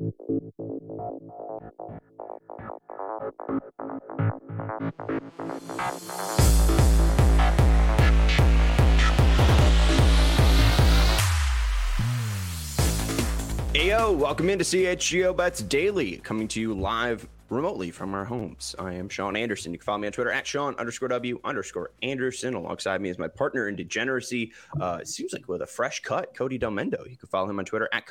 Ayo, welcome into CHGO Bets Daily, coming to you live remotely from our homes. I am Sean Anderson. You can follow me on Twitter at Sean_W_Anderson. Alongside me is my partner in degeneracy. It seems like with a fresh cut, Cody Delmendo. You can follow him on Twitter at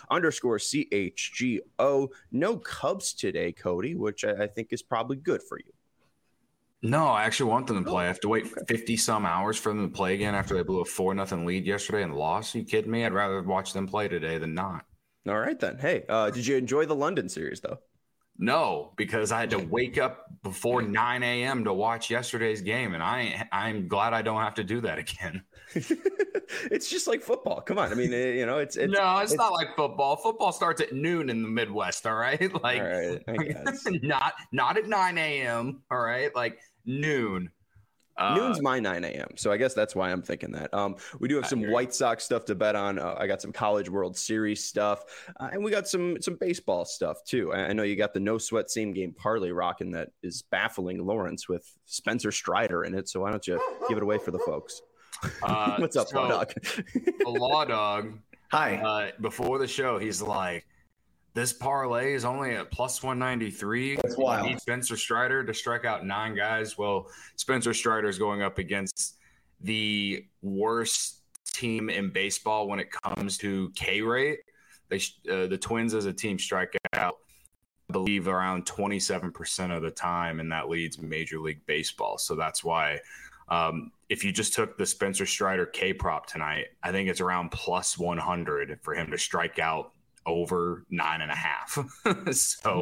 Cody_CHGO. No Cubs today, Cody, which I think is probably good for you. No, I actually want them to play. I have to wait 50 some hours for them to play again after they blew a 4-0 lead yesterday and lost. Are you kidding me? I'd rather watch them play today than not. All right, then. Hey, did you enjoy the London series, though? No, because I had to wake up before 9 a.m. to watch yesterday's game, and I'm glad I don't have to do that again. It's just like football. Come on. I mean, it's not like football. Football starts at noon in the Midwest, all right? Like, all right, I guess. not at 9 a.m., all right? Like noon. Noon's my 9 a.m., so I guess that's why I'm thinking that. We do have some White Sox stuff to bet on. I got some College World Series stuff, and we got some baseball stuff, too. I know you got the no-sweat same-game parlay rocking that is baffling Lawrence with Spencer Strider in it, so why don't you give it away for the folks? What's up, Law Dog? The Law Dog. Hi. Before the show, he's like, this parlay is only at plus 193. That's wild. You need Spencer Strider to strike out 9 guys. Well, Spencer Strider is going up against the worst team in baseball when it comes to K rate. The Twins as a team strike out, I believe, around 27% of the time, and that leads Major League Baseball. So that's why if you just took the Spencer Strider K prop tonight, I think it's around plus 100 for him to strike out over 9.5. So,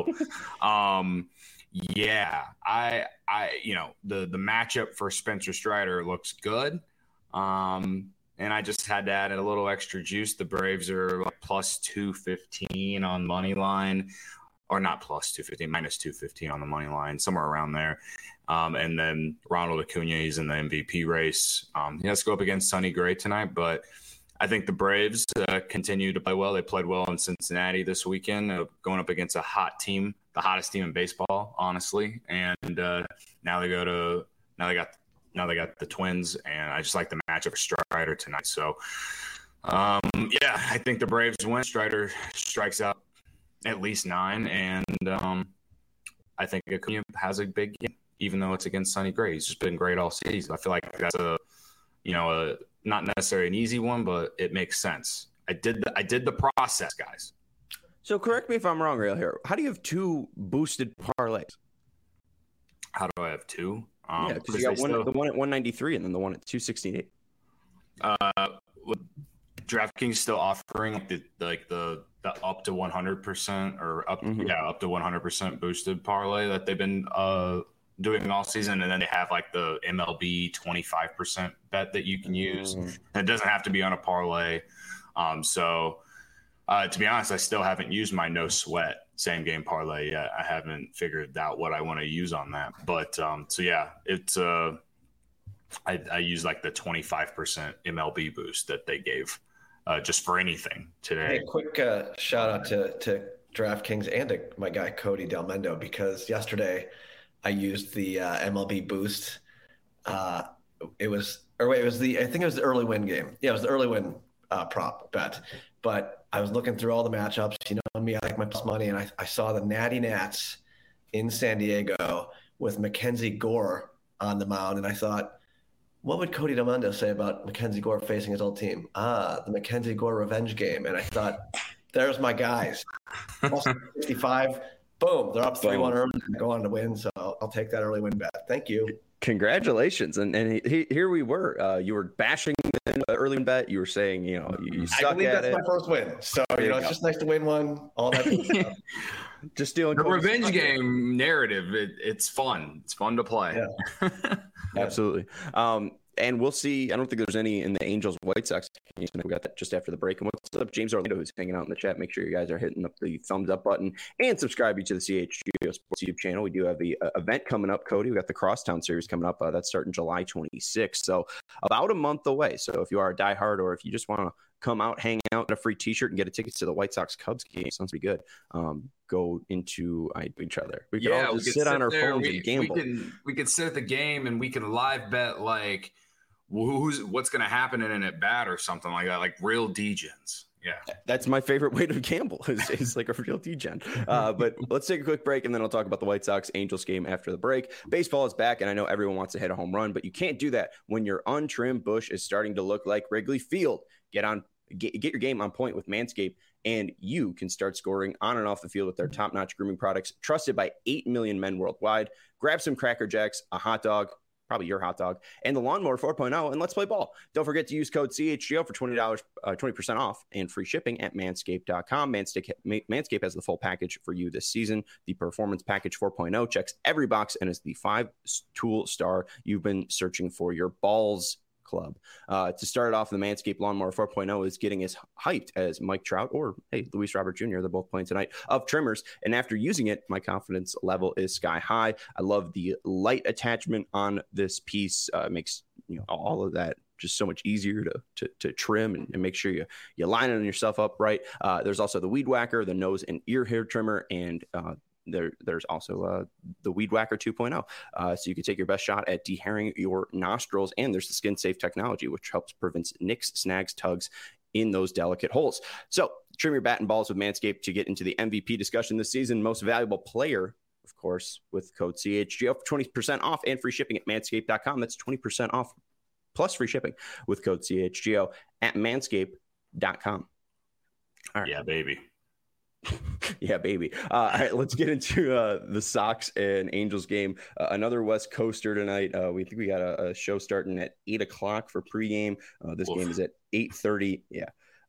yeah, I the matchup for Spencer Strider looks good. And I just had to add a little extra juice. The Braves are like plus 215 on money line, or not plus 215, minus 215 on the money line, somewhere around there. And then Ronald Acuna, he's in the MVP race. He has to go up against Sonny Gray tonight, but I think the Braves continue to play well. They played well in Cincinnati this weekend, going up against a hot team, the hottest team in baseball, honestly. And now they got the Twins, and I just like the matchup of Strider tonight. So, I think the Braves win. Strider strikes out at least 9, and I think Acuna has a big game, even though it's against Sonny Gray. He's just been great all season. I feel like that's a not necessarily an easy one, but it makes sense. I did the process, guys. So correct me if I'm wrong, real here. How do you have 2 boosted parlays? How do I have 2? Yeah, because you got the one at 193 and then the one at 268. DraftKings still offering the up to 100% or up to 100% boosted parlay that they've been doing all season, and then they have like the MLB 25% bet that you can use. And it doesn't have to be on a parlay. To be honest, I still haven't used my no sweat same game parlay yet. I haven't figured out what I want to use on that. But it's I use like the 25% MLB boost that they gave just for anything today. Hey, quick shout out to DraftKings and to my guy Cody Delmendo, because yesterday I used the MLB boost. I think it was the early win game. Yeah, it was the early win prop bet. But I was looking through all the matchups. You know me, I like my plus money, and I saw the Natty Nats in San Diego with Mackenzie Gore on the mound, and I thought, what would Cody Delmendo say about Mackenzie Gore facing his old team? The Mackenzie Gore revenge game. And I thought, there's my guys. 65. Boom, they're up 3-1 early and go on to win. So I'll take that early win bet. Thank you. Congratulations. And here we were. You were bashing the early win bet. You were saying, you suck at it. I believe that's my first win. So, it's just nice to win one. All that stuff. Just stealing the revenge game narrative. It's fun. It's fun to play. Yeah. Absolutely. And we'll see. I don't think there's any in the Angels White Sox. We got that just after the break. And what's up, James Orlando, who's hanging out in the chat? Make sure you guys are hitting up the thumbs up button and subscribing to the CHGO Sports YouTube channel. We do have the event coming up, Cody. We got the Crosstown Series coming up. That's starting July 26th. So about a month away. So if you are a diehard or if you just want to come out, hang out, get a free T-shirt, and get a ticket to the White Sox Cubs game. Sounds pretty good. Go into each other. We could all just sit on our phones and gamble. We could sit at the game and we can live bet like what's going to happen in an at bat or something like that, like real degens. Yeah, that's my favorite way to gamble is like a real degen. But let's take a quick break, and then I'll talk about the White Sox Angels game after the break. Baseball is back, and I know everyone wants to hit a home run, but you can't do that when your untrimmed bush is starting to look like Wrigley Field. Get your game on point with Manscaped, and you can start scoring on and off the field with their top-notch grooming products, trusted by 8 million men worldwide. Grab some Cracker Jacks, a hot dog, probably your hot dog, and the Lawnmower 4.0, and let's play ball. Don't forget to use code CHGO for $20% off and free shipping at manscaped.com. Manscaped has the full package for you this season. The Performance Package 4.0 checks every box and is the 5-tool star you've been searching for your balls club. To start it off, the Manscaped Lawnmower 4.0 is getting as hyped as Mike Trout or, hey, Luis Robert Jr. They're both playing tonight of trimmers. And after using it, my confidence level is sky high. I love the light attachment on this piece. It makes all of that just so much easier to trim and make sure you line yourself up right. There's also the Weed Whacker, the nose and ear hair trimmer, and there's also the Weed Whacker 2.0. So you can take your best shot at dehairing your nostrils. And there's the Skin Safe technology, which helps prevent nicks, snags, tugs in those delicate holes. So trim your bat and balls with Manscaped to get into the MVP discussion this season. Most valuable player, of course, with code CHGO for 20% off and free shipping at manscaped.com. That's 20% off plus free shipping with code CHGO at manscaped.com. All right. Yeah, baby. Yeah, baby. All right, let's get into the Sox and Angels game. Another West Coaster tonight. We think we got a show starting at 8 o'clock for pregame. This game is at 8:30. Yeah.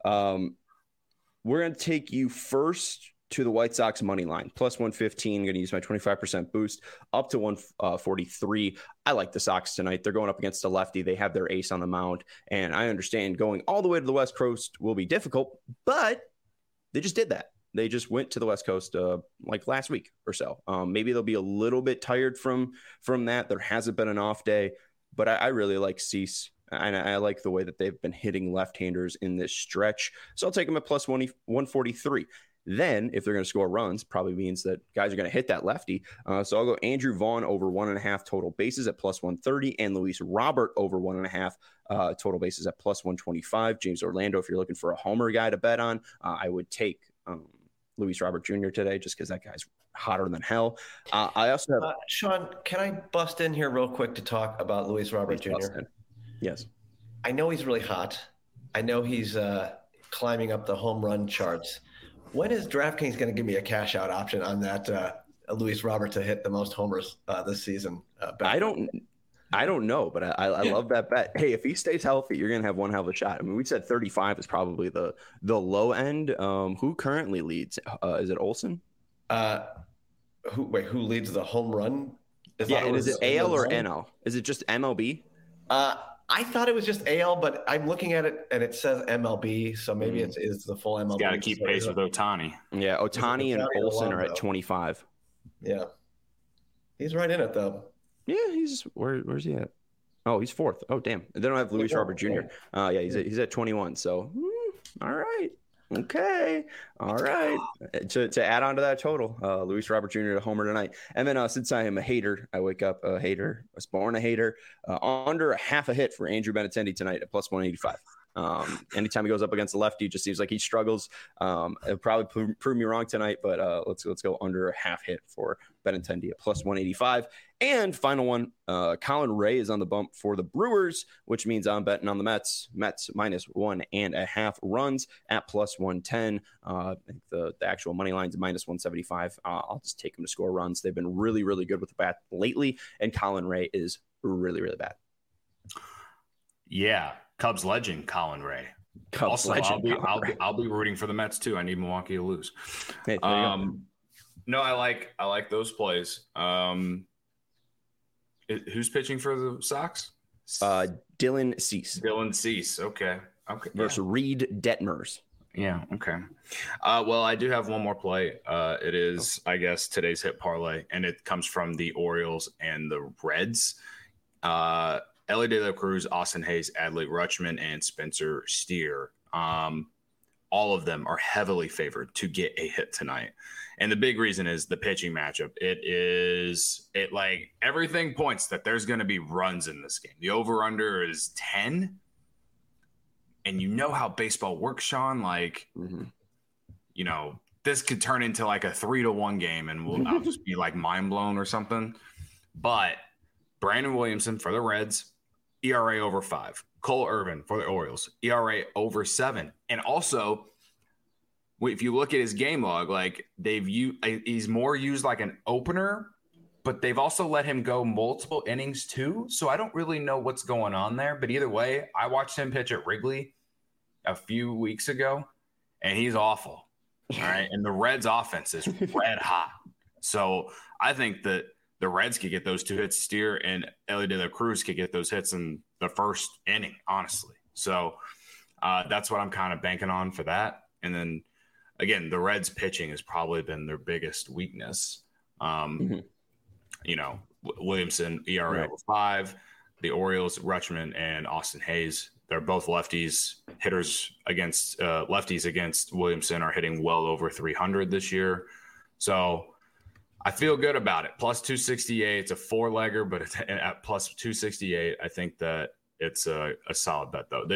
We're going to take you first to the White Sox money line, plus 115. I'm going to use my 25% boost up to 143. I like the Sox tonight. They're going up against a lefty. They have their ace on the mound, and I understand going all the way to the West Coast will be difficult, but they just did that. They just went to the West Coast like last week or so. Maybe they'll be a little bit tired from that. There hasn't been an off day, but I really like Cease, and I like the way that they've been hitting left-handers in this stretch. So I'll take them at plus 143. Then, if they're going to score runs, probably means that guys are going to hit that lefty. So I'll go Andrew Vaughn over 1.5 total bases at plus 130, and Luis Robert over 1.5 total bases at plus 125. James Orlando, if you're looking for a homer guy to bet on, I would take Luis Robert Jr. today, just because that guy's hotter than hell. I also have Sean. Can I bust in here real quick to talk about Luis Robert Jr.? Yes, I know he's really hot. I know he's climbing up the home run charts. When is DraftKings going to give me a cash out option on that Luis Robert to hit the most homers this season? I don't know, but I love that bet. Hey, if he stays healthy, you're going to have one hell of a shot. I mean, we said 35 is probably the low end. Who currently leads? Is it Olsen? Who leads the home run? Is it AL or NL? Is it just MLB? I thought it was just AL, but I'm looking at it and it says MLB, so maybe it is the full MLB. Got to keep pace with Ohtani. Yeah, Ohtani and Olsen are at 25. Yeah, he's right in it though. Yeah, he's where's he at? Oh, he's fourth. Oh, damn. They don't have Luis Robert Jr. Yeah, he's at 21. So, all right. Okay. All right. To add on to that total, Luis Robert Jr. to homer tonight. And then since I am a hater, I wake up a hater. I was born a hater. Under a half a hit for Andrew Benintendi tonight at plus 185. Anytime he goes up against the lefty, it just seems like he struggles. It'll probably prove me wrong tonight, but let's go under a half hit for Benintendi at plus 185. And final one, Colin Ray is on the bump for the Brewers, which means I'm betting on the Mets. Mets minus 1.5 runs at plus 110. I think the actual money line's minus 175. I'll just take them to score runs. They've been really, really good with the bat lately, and Colin Ray is really, really bad. Yeah. Cubs legend Colin Ray. Cubs legend. I'll be rooting for the Mets too. I need Milwaukee to lose. Hey, no, I like those plays. Who's pitching for the Sox? Dylan Cease. Dylan Cease. Okay. Versus Reed Detmers. Yeah. Okay. Well, I do have one more play. It is, I guess, today's hit parlay, and it comes from the Orioles and the Reds. Ellie De La Cruz, Austin Hayes, Adley Rutschman, and Spencer Steer All of them are heavily favored to get a hit tonight. And the big reason is the pitching matchup. It like everything points that there's going to be runs in this game. The over-under is 10. And you know how baseball works, Sean. Like, you know, this could turn into like a 3-1 game and I'll just be like mind blown or something. But Brandon Williamson for the Reds, ERA over 5. Cole Irvin for the Orioles, ERA over 7. And also, if you look at his game log, like he's more used like an opener, but they've also let him go multiple innings too. So I don't really know what's going on there. But either way, I watched him pitch at Wrigley a few weeks ago, and he's awful. All right. And the Reds offense is red hot. So I think that the Reds could get those 2 hits, Steer and Elly De La Cruz could get those hits in the first inning, honestly. So that's what I'm kind of banking on for that. And then, again, the Reds pitching has probably been their biggest weakness. You know, Williamson, ERA over 5. The Orioles, Rutschman and Austin Hayes, they're both lefties. Hitters against lefties against Williamson are hitting well over 300 this year. So I feel good about it. Plus 268. It's a 4-legger, but it's at plus 268. I think that it's a solid bet, though.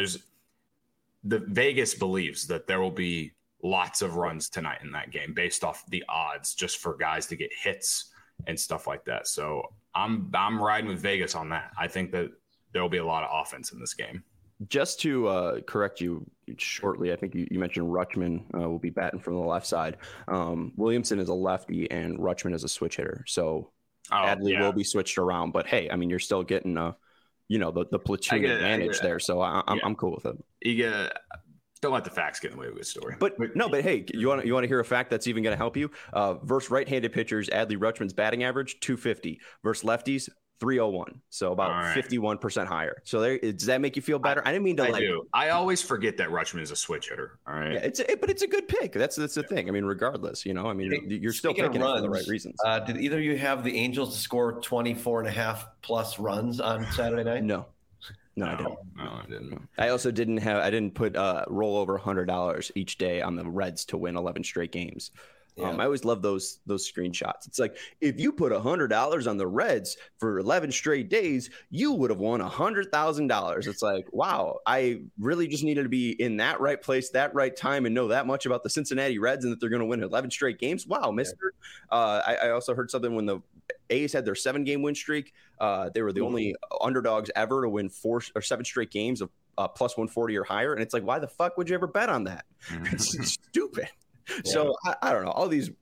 The Vegas believes that there will be lots of runs tonight in that game based off the odds just for guys to get hits and stuff like that. So I'm riding with Vegas on that. I think that there will be a lot of offense in this game. Just to correct you shortly, I think you mentioned Rutschman will be batting from the left side. Williamson is a lefty and Rutschman is a switch hitter. So Adley will be switched around. But, hey, I mean, you're still getting, the platoon advantage there. So I'm cool with it. Don't let the facts get in the way of the story. But hey, you want to hear a fact that's even going to help you? Versus right-handed pitchers, Adley Rutschman's batting average 250 versus lefties 301, so about 51% higher. So does that make you feel better? I didn't mean to. I do. I always forget that Rutschman is a switch hitter. All right. Yeah, but it's a good pick. That's the thing. I mean, regardless, you're still picking it for the right reasons. Did either of you have the Angels to score 24.5 plus runs on Saturday night? No, I didn't. No, I didn't. I also didn't put roll over $100 each day on the Reds to win 11 straight games. Yeah. I always love those screenshots. It's like, if you put $100 on the Reds for 11 straight days, you would have won $100,000. It's like, wow, I really just needed to be in that right place, that right time, and know that much about the Cincinnati Reds and that they're going to win 11 straight games. Wow, mister. I also heard something when the A's had their 7-game win streak. They were the only underdogs ever to win 4 or 7 straight games of plus 140 or higher. And it's like, why the fuck would you ever bet on that? It's stupid. Yeah. So I don't know, all these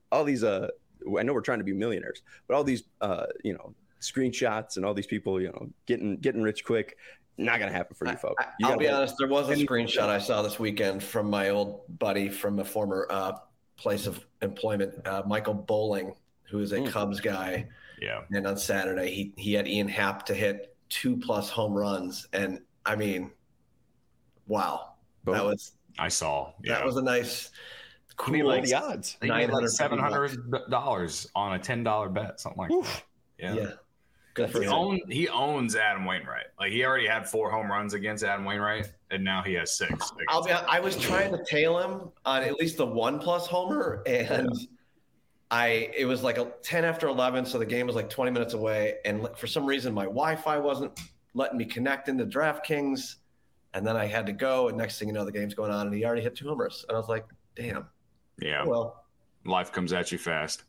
I know we're trying to be millionaires, but all these screenshots and all these people getting rich quick, not gonna happen for you folks. I'll be honest, there was a screenshot I saw this weekend from my old buddy from a former place of employment, Michael Bowling, who is a Cubs guy. Yeah. And on Saturday he had Ian Happ to hit 2+ home runs, and I mean, wow. Boom. That was that was a nice. Cool, like the odds. $700 on a $10 bet, something like that. Yeah. Good for him. He owns Adam Wainwright. Like, he already had 4 home runs against Adam Wainwright, and now he has 6. I was trying to tail him on at least the 1+ homer, and it was like 10 after 11, so the game was like 20 minutes away, and for some reason my Wi-Fi wasn't letting me connect into DraftKings, and then I had to go, and next thing you know, the game's going on, and he already hit 2 homers, and I was like, damn. Yeah. Well, life comes at you fast.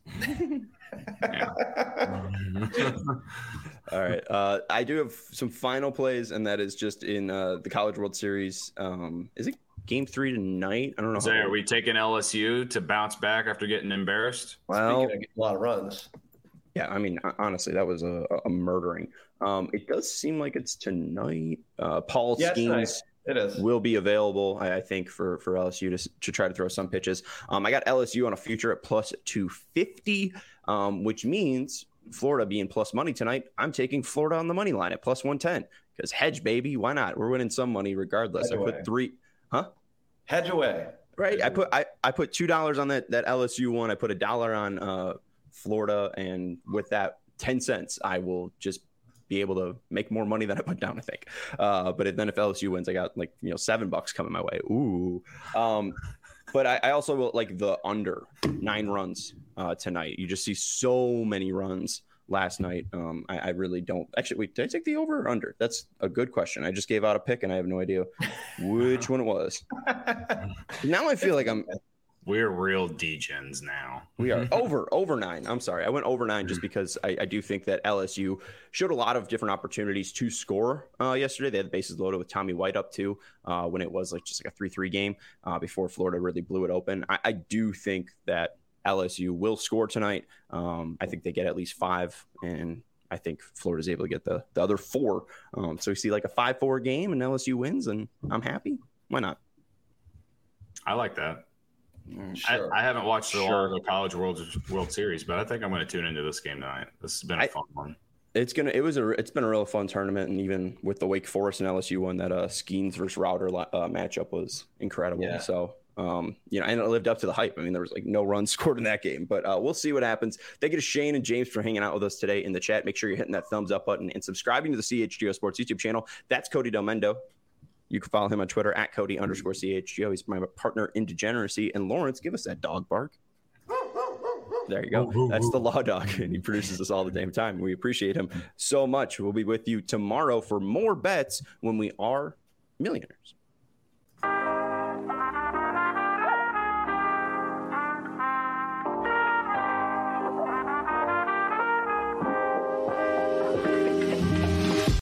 All right. I do have some final plays, and that is just in the College World Series. Is it Game 3 tonight? I don't know. Are we taking LSU to bounce back after getting embarrassed? Well, a lot of runs. Yeah, I mean, honestly, that was a murdering. It does seem like it's tonight. Paul Skeens. It is. Will be available, I think, for LSU to try to throw some pitches. I got LSU on a future at plus 250, which means Florida being plus money tonight. I'm taking Florida on the money line at plus 110 because hedge, baby. Why not? We're winning some money regardless. Hedge put 3, huh? Hedge away. Right. I put $2 on that LSU one. I put $1 on Florida, and with that 10 cents, I will just be able to make more money than I put down, I think. But then if LSU wins, I got like, $7 coming my way. Ooh. But I also like the under 9 runs tonight. You just see so many runs last night. I really don't. Actually, wait, did I take the over or under? That's a good question. I just gave out a pick and I have no idea which one it was. Now I feel like we're real degens now. We are over 9. I'm sorry. I went over 9 just because I do think that LSU showed a lot of different opportunities to score yesterday. They had the bases loaded with Tommy White up too when it was just like a 3-3 game before Florida really blew it open. I do think that LSU will score tonight. I think they get at least 5, and I think Florida's able to get the other 4. So we see like a 5-4 game and LSU wins, and I'm happy. Why not? I like that. Sure. I haven't watched a lot of the College World Series, but I think I'm going to tune into this game tonight. This has been a fun one. It's been a real fun tournament, and even with the Wake Forest and LSU one, that Skeens versus Router matchup was incredible. Yeah. So and it lived up to the hype. I mean, there was like no runs scored in that game, but we'll see what happens. Thank you to Shane and James for hanging out with us today in the chat. Make sure you're hitting that thumbs up button and subscribing to the CHGO Sports YouTube channel. That's Cody Del Mendo. You can follow him on Twitter at Cody_CHGO. He's my partner in degeneracy. And Lawrence, give us that dog bark. There you go. That's the Law Dog, and he produces this all the damn time. We appreciate him so much. We'll be with you tomorrow for more bets when we are millionaires.